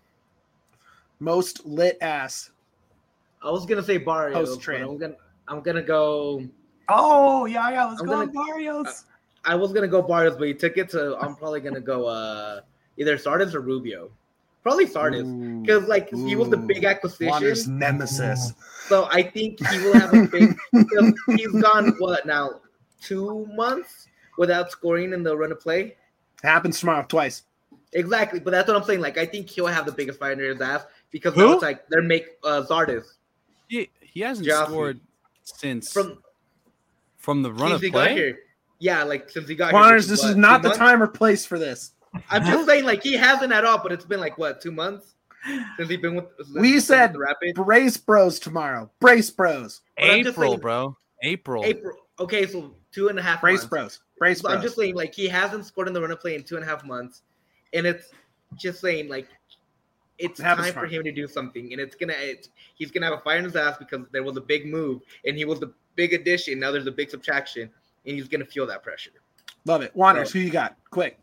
Speaker 1: Most lit ass.
Speaker 4: I was gonna say Barrios,
Speaker 1: Post
Speaker 4: but
Speaker 1: trade.
Speaker 4: I'm gonna I'm gonna go.
Speaker 3: Oh yeah, yeah. Let's
Speaker 4: I'm
Speaker 3: go
Speaker 4: gonna-
Speaker 3: on Barrios.
Speaker 4: I was gonna go Barrios, but he took it, so I'm probably gonna go uh either Sardis or Rubio. Probably Sardis,
Speaker 1: Ooh.
Speaker 4: because like he was the big
Speaker 1: Wander's
Speaker 4: acquisition,
Speaker 1: nemesis.
Speaker 4: so I think he will have a big. Because he's gone what now, two months without scoring in the run of play.
Speaker 1: Happens tomorrow twice.
Speaker 4: Exactly, but that's what I'm saying. Like I think he'll have the biggest fight in his ass because
Speaker 2: Who?
Speaker 4: now it's like they're make uh, Zardis
Speaker 2: He he hasn't
Speaker 4: Jaffe.
Speaker 2: scored since from,
Speaker 4: from
Speaker 2: the run
Speaker 4: since
Speaker 2: of
Speaker 4: he got
Speaker 2: play.
Speaker 4: here. Yeah, like since he got
Speaker 1: Juaners,
Speaker 4: here.
Speaker 1: this
Speaker 4: what,
Speaker 1: is not
Speaker 4: two
Speaker 1: the
Speaker 4: months?
Speaker 1: time or place for this.
Speaker 4: I'm just saying, like he hasn't at all, but it's been like what two months since he's been with. since
Speaker 1: We
Speaker 4: he's been
Speaker 1: said
Speaker 4: with the Rapid.
Speaker 1: Brace bros tomorrow. Brace bros.
Speaker 4: But I'm just
Speaker 2: April,
Speaker 4: saying-
Speaker 2: bro. April.
Speaker 4: April. Okay, so two and a half.
Speaker 1: Brace
Speaker 4: months.
Speaker 1: bros. Brace
Speaker 4: So
Speaker 1: bros.
Speaker 4: I'm just saying, like he hasn't scored in the run of play in two and a half months, and it's just saying, like it's
Speaker 1: It happens
Speaker 4: time for
Speaker 1: tomorrow.
Speaker 4: him to do something, and it's gonna. It's, he's gonna have a fire in his ass because there was a big move, and he was the big addition. Now there's a big subtraction, and he's gonna feel that pressure.
Speaker 1: Love it. Wanderers,
Speaker 4: So-
Speaker 1: who you got? Quick.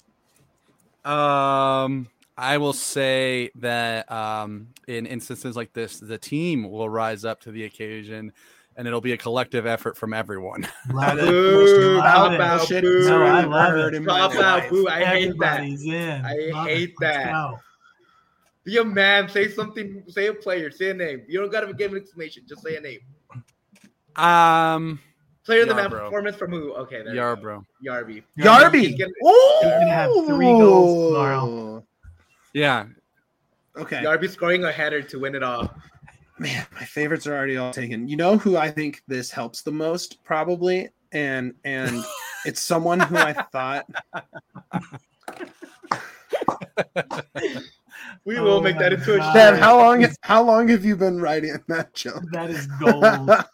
Speaker 2: Um, I will say that um, in instances like this, the team will rise up to the occasion, and it'll be a collective effort from everyone.
Speaker 3: Love it.
Speaker 4: Boo,
Speaker 3: Love
Speaker 4: cop
Speaker 3: it.
Speaker 4: out,
Speaker 1: Bullshit
Speaker 4: boo.
Speaker 1: is
Speaker 3: No, I
Speaker 1: ever
Speaker 3: love
Speaker 1: heard
Speaker 3: it.
Speaker 1: in my
Speaker 4: Cop out,
Speaker 1: life.
Speaker 4: boo. I hate that.
Speaker 3: Everybody's in.
Speaker 4: I
Speaker 3: Love
Speaker 4: hate
Speaker 3: it. Let's
Speaker 4: that.
Speaker 3: go.
Speaker 4: Be a man. Say something. Say a player. Say a name. You don't gotta give an exclamation. Just say a name.
Speaker 2: Um,
Speaker 4: Player of the man
Speaker 2: Yarbrough.
Speaker 4: performance from who? Okay, there you go.
Speaker 2: Yarbrough.
Speaker 4: Yarby.
Speaker 1: Yarby.
Speaker 4: He's gonna-
Speaker 1: Ooh.
Speaker 3: He's gonna have three goals tomorrow.
Speaker 2: Yeah,
Speaker 1: Okay.
Speaker 4: Yarby scoring a header to win it all.
Speaker 1: Man, my favorites are already all taken. You know who I think this helps the most, probably, and and it's someone who I thought
Speaker 4: We
Speaker 3: Oh
Speaker 4: will make that
Speaker 3: my
Speaker 4: into a
Speaker 3: God.
Speaker 1: Dev,
Speaker 4: show.
Speaker 1: how long how long have you been writing that joke?
Speaker 3: That is gold.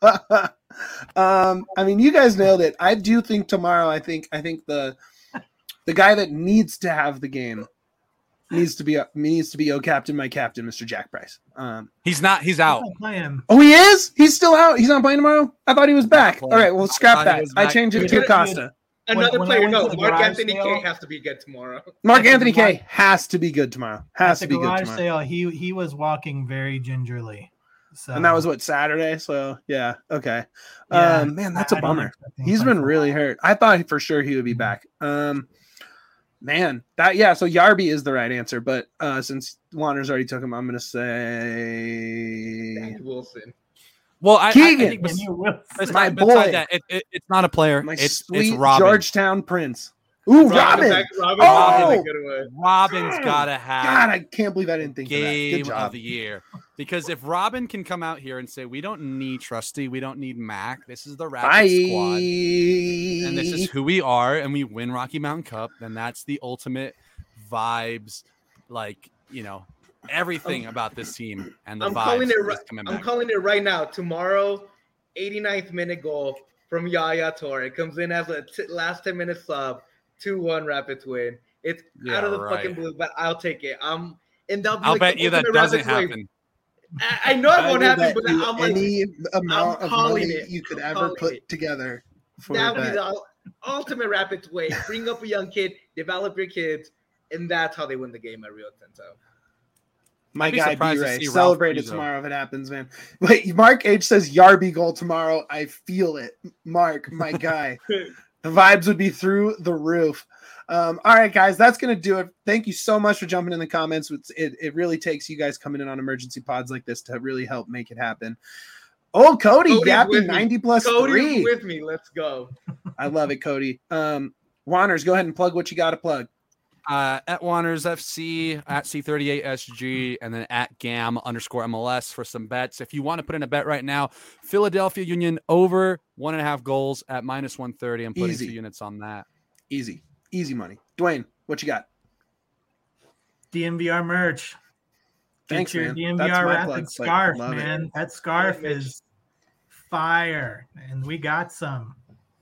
Speaker 1: um, I mean, you guys nailed it. I do think tomorrow. I think I think the the guy that needs to have the game needs to be needs to be oh captain, my captain, Mister Jack Price. Um,
Speaker 2: he's not. He's out.
Speaker 3: Play him.
Speaker 1: oh, he is. He's still out. He's not playing tomorrow. I thought he was back.
Speaker 2: playing.
Speaker 1: All right, well,
Speaker 2: I
Speaker 1: scrap
Speaker 2: thought he
Speaker 1: that.
Speaker 2: was
Speaker 1: I
Speaker 2: back.
Speaker 1: changed it
Speaker 3: Dude,
Speaker 1: to
Speaker 3: dude,
Speaker 1: Acosta.
Speaker 4: Another
Speaker 3: When- when I
Speaker 4: player.
Speaker 3: went to
Speaker 4: No,
Speaker 3: the
Speaker 4: Mark
Speaker 3: garage
Speaker 4: Anthony
Speaker 3: sale-
Speaker 4: K has to be good tomorrow.
Speaker 1: Mark
Speaker 3: At the
Speaker 1: Anthony
Speaker 3: garage-
Speaker 1: K has to be good tomorrow. Has
Speaker 3: At
Speaker 1: to
Speaker 3: the
Speaker 1: be good
Speaker 3: garage
Speaker 1: tomorrow.
Speaker 3: sale, he he was walking very gingerly. So
Speaker 1: And that was what, Saturday? So yeah, okay.
Speaker 3: Yeah,
Speaker 1: um, man, that's
Speaker 3: I-
Speaker 1: a
Speaker 3: I don't
Speaker 1: bummer.
Speaker 3: expect him to
Speaker 1: He's
Speaker 3: play
Speaker 1: been
Speaker 3: for a
Speaker 1: really
Speaker 3: while.
Speaker 1: hurt. I thought for sure he would be
Speaker 3: Mhm.
Speaker 1: back. Um, man, that yeah. So Yarby is the right answer, but uh, since Wanderers already took him, I'm gonna say
Speaker 4: Danny Wilson.
Speaker 2: Well, I, I, I
Speaker 1: Keegan.
Speaker 2: think bes-
Speaker 3: And you will-
Speaker 2: beside,
Speaker 1: My
Speaker 2: beside
Speaker 1: boy.
Speaker 2: that, it, it, it's not a player.
Speaker 1: my
Speaker 2: it's
Speaker 1: sweet
Speaker 2: it's Robin.
Speaker 1: Georgetown Prince. Ooh, Robin!
Speaker 4: Robin. Robin
Speaker 1: Oh!
Speaker 4: is a good one.
Speaker 2: Robin's
Speaker 1: God.
Speaker 2: gotta have
Speaker 1: God, I can't believe I didn't think of that.
Speaker 2: game
Speaker 1: Good job.
Speaker 2: of the year. Because if Robin can come out here and say, we don't need Trusty, we don't need Mac, this is the Rapid
Speaker 1: Bye.
Speaker 2: squad, and this is who we are, and we win Rocky Mountain Cup, then that's the ultimate vibes, like, you know, everything about this team and the
Speaker 4: I'm
Speaker 2: vibes.
Speaker 4: calling it
Speaker 2: is
Speaker 4: right.
Speaker 2: coming
Speaker 4: I'm
Speaker 2: back.
Speaker 4: calling it right now. Tomorrow, eighty-ninth minute goal from Yaya Toure. It comes in as a t- last ten minute sub. two one Rapids win. It's
Speaker 2: Yeah,
Speaker 4: out of the
Speaker 2: right.
Speaker 4: fucking blue, but I'll take it. I'm and that'll be
Speaker 2: I'll
Speaker 4: like
Speaker 2: bet
Speaker 4: the
Speaker 2: you that
Speaker 4: ultimate
Speaker 2: doesn't
Speaker 4: Rapids win.
Speaker 2: happen.
Speaker 4: I, I know it
Speaker 1: I
Speaker 4: won't
Speaker 1: will
Speaker 4: happen,
Speaker 1: bet
Speaker 4: but
Speaker 1: you
Speaker 4: I'm like,
Speaker 1: any amount of
Speaker 4: calling
Speaker 1: money
Speaker 4: it.
Speaker 1: you could
Speaker 4: I'm
Speaker 1: ever
Speaker 4: calling
Speaker 1: put
Speaker 4: it.
Speaker 1: together for
Speaker 4: that'll be
Speaker 1: that.
Speaker 4: the ul- ultimate Rapids way. Bring up a young kid, develop your kids, and that's how they win the game at Rio Tinto.
Speaker 1: My
Speaker 2: I'd be
Speaker 1: guy
Speaker 2: surprised to
Speaker 1: B-Ray.
Speaker 2: see Ralph
Speaker 1: Celebrate it
Speaker 2: Rizzo.
Speaker 1: tomorrow if it happens, man. Wait, Mark H says Yarby goal tomorrow. I feel it. Mark, my guy. The vibes would be through the roof. Um, all right, guys, that's going to do it. Thank you so much for jumping in the comments. It's, it, it really takes you guys coming in on emergency pods like this to really help make it happen. Oh, Cody,
Speaker 4: Cody's
Speaker 1: Yappy,
Speaker 4: with me.
Speaker 1: ninety plus
Speaker 4: Cody's
Speaker 1: three.
Speaker 4: with me. Let's go.
Speaker 1: I love it, Cody. Um, Wanderers, go ahead and plug what you got to plug.
Speaker 2: Uh, at Wanderers F C, at C thirty-eight S G, and then at Gam underscore M L S for some bets. If you want to put in a bet right now, Philadelphia Union over one and a half goals at minus one thirty. I'm putting
Speaker 1: Easy.
Speaker 2: two units on that.
Speaker 1: Easy, easy money. Dwayne, what you got?
Speaker 3: D M V R merch. Get
Speaker 1: Thanks,
Speaker 3: your
Speaker 1: man.
Speaker 3: D M V
Speaker 1: That's
Speaker 3: R
Speaker 1: my
Speaker 3: Rapid
Speaker 1: plug, but
Speaker 3: scarf,
Speaker 1: love it.
Speaker 3: man. That scarf
Speaker 4: Thanks, Mitch.
Speaker 3: is fire, and we got some.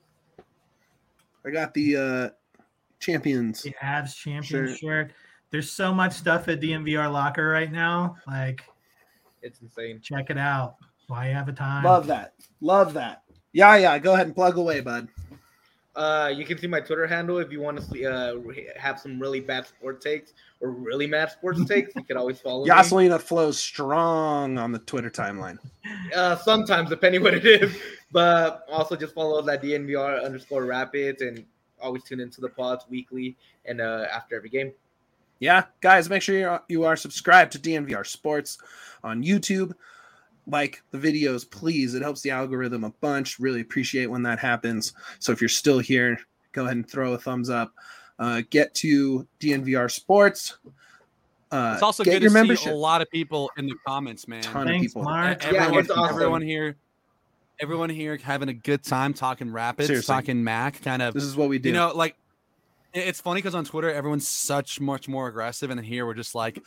Speaker 1: I got the uh, champions.
Speaker 3: The Avs champion
Speaker 1: Sure.
Speaker 3: shirt. There's so much stuff at D M V R Locker right now. Like,
Speaker 4: It's insane.
Speaker 3: check it out. Why you have a time?
Speaker 1: Love that. Love that. Yeah, yeah. Go ahead and plug away, bud.
Speaker 4: Uh, you can see my Twitter handle if you want to see, uh, have some really bad sports takes or really mad sports takes. You can always follow me.
Speaker 1: Yaselina flows strong on the Twitter timeline.
Speaker 4: Uh, sometimes, depending what it is. But also just follow that D N V R underscore Rapids and always tune into the pods weekly and uh, after every game.
Speaker 1: Yeah, guys, make sure you're, you are subscribed to D N V R Sports on YouTube. Like the videos, please. It helps the algorithm a bunch. Really appreciate when that happens. So if you're still here, go ahead and throw a thumbs up. Uh, get to D N V R Sports. Uh,
Speaker 2: it's also
Speaker 1: get
Speaker 2: good
Speaker 1: your
Speaker 2: to
Speaker 1: membership.
Speaker 2: see a lot of people in the comments, man.
Speaker 1: Ton
Speaker 3: Thanks,
Speaker 1: of people.
Speaker 3: Mark.
Speaker 4: Yeah,
Speaker 2: Everyone,
Speaker 4: it's awesome.
Speaker 2: everyone here, everyone here having a good time talking Rapids,
Speaker 1: Seriously.
Speaker 2: talking Mac, kind of.
Speaker 1: This is what we do.
Speaker 2: You know, like it- it's funny because on Twitter everyone's such much more aggressive, and here we're just like,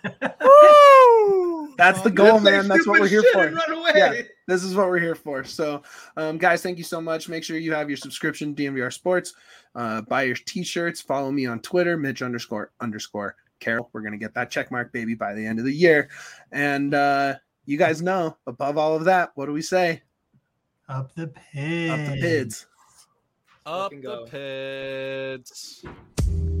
Speaker 2: woo!
Speaker 1: That's the
Speaker 4: Just
Speaker 1: goal,
Speaker 4: say
Speaker 1: man. That's what
Speaker 4: stupid
Speaker 1: we're here
Speaker 4: shit
Speaker 1: for.
Speaker 4: and run away.
Speaker 1: Yeah. This is what we're here for. So, um, guys, thank you so much. Make sure you have your subscription to D N V R Sports. Uh, buy your t-shirts. Follow me on Twitter, Mitch underscore underscore Carroll. We're going to get that check mark, baby, by the end of the year. And uh, you guys know, above all of that, what do we say?
Speaker 3: Up the pig.
Speaker 1: Up the pids.
Speaker 2: Up
Speaker 4: Fucking
Speaker 2: the
Speaker 4: go.
Speaker 2: pits.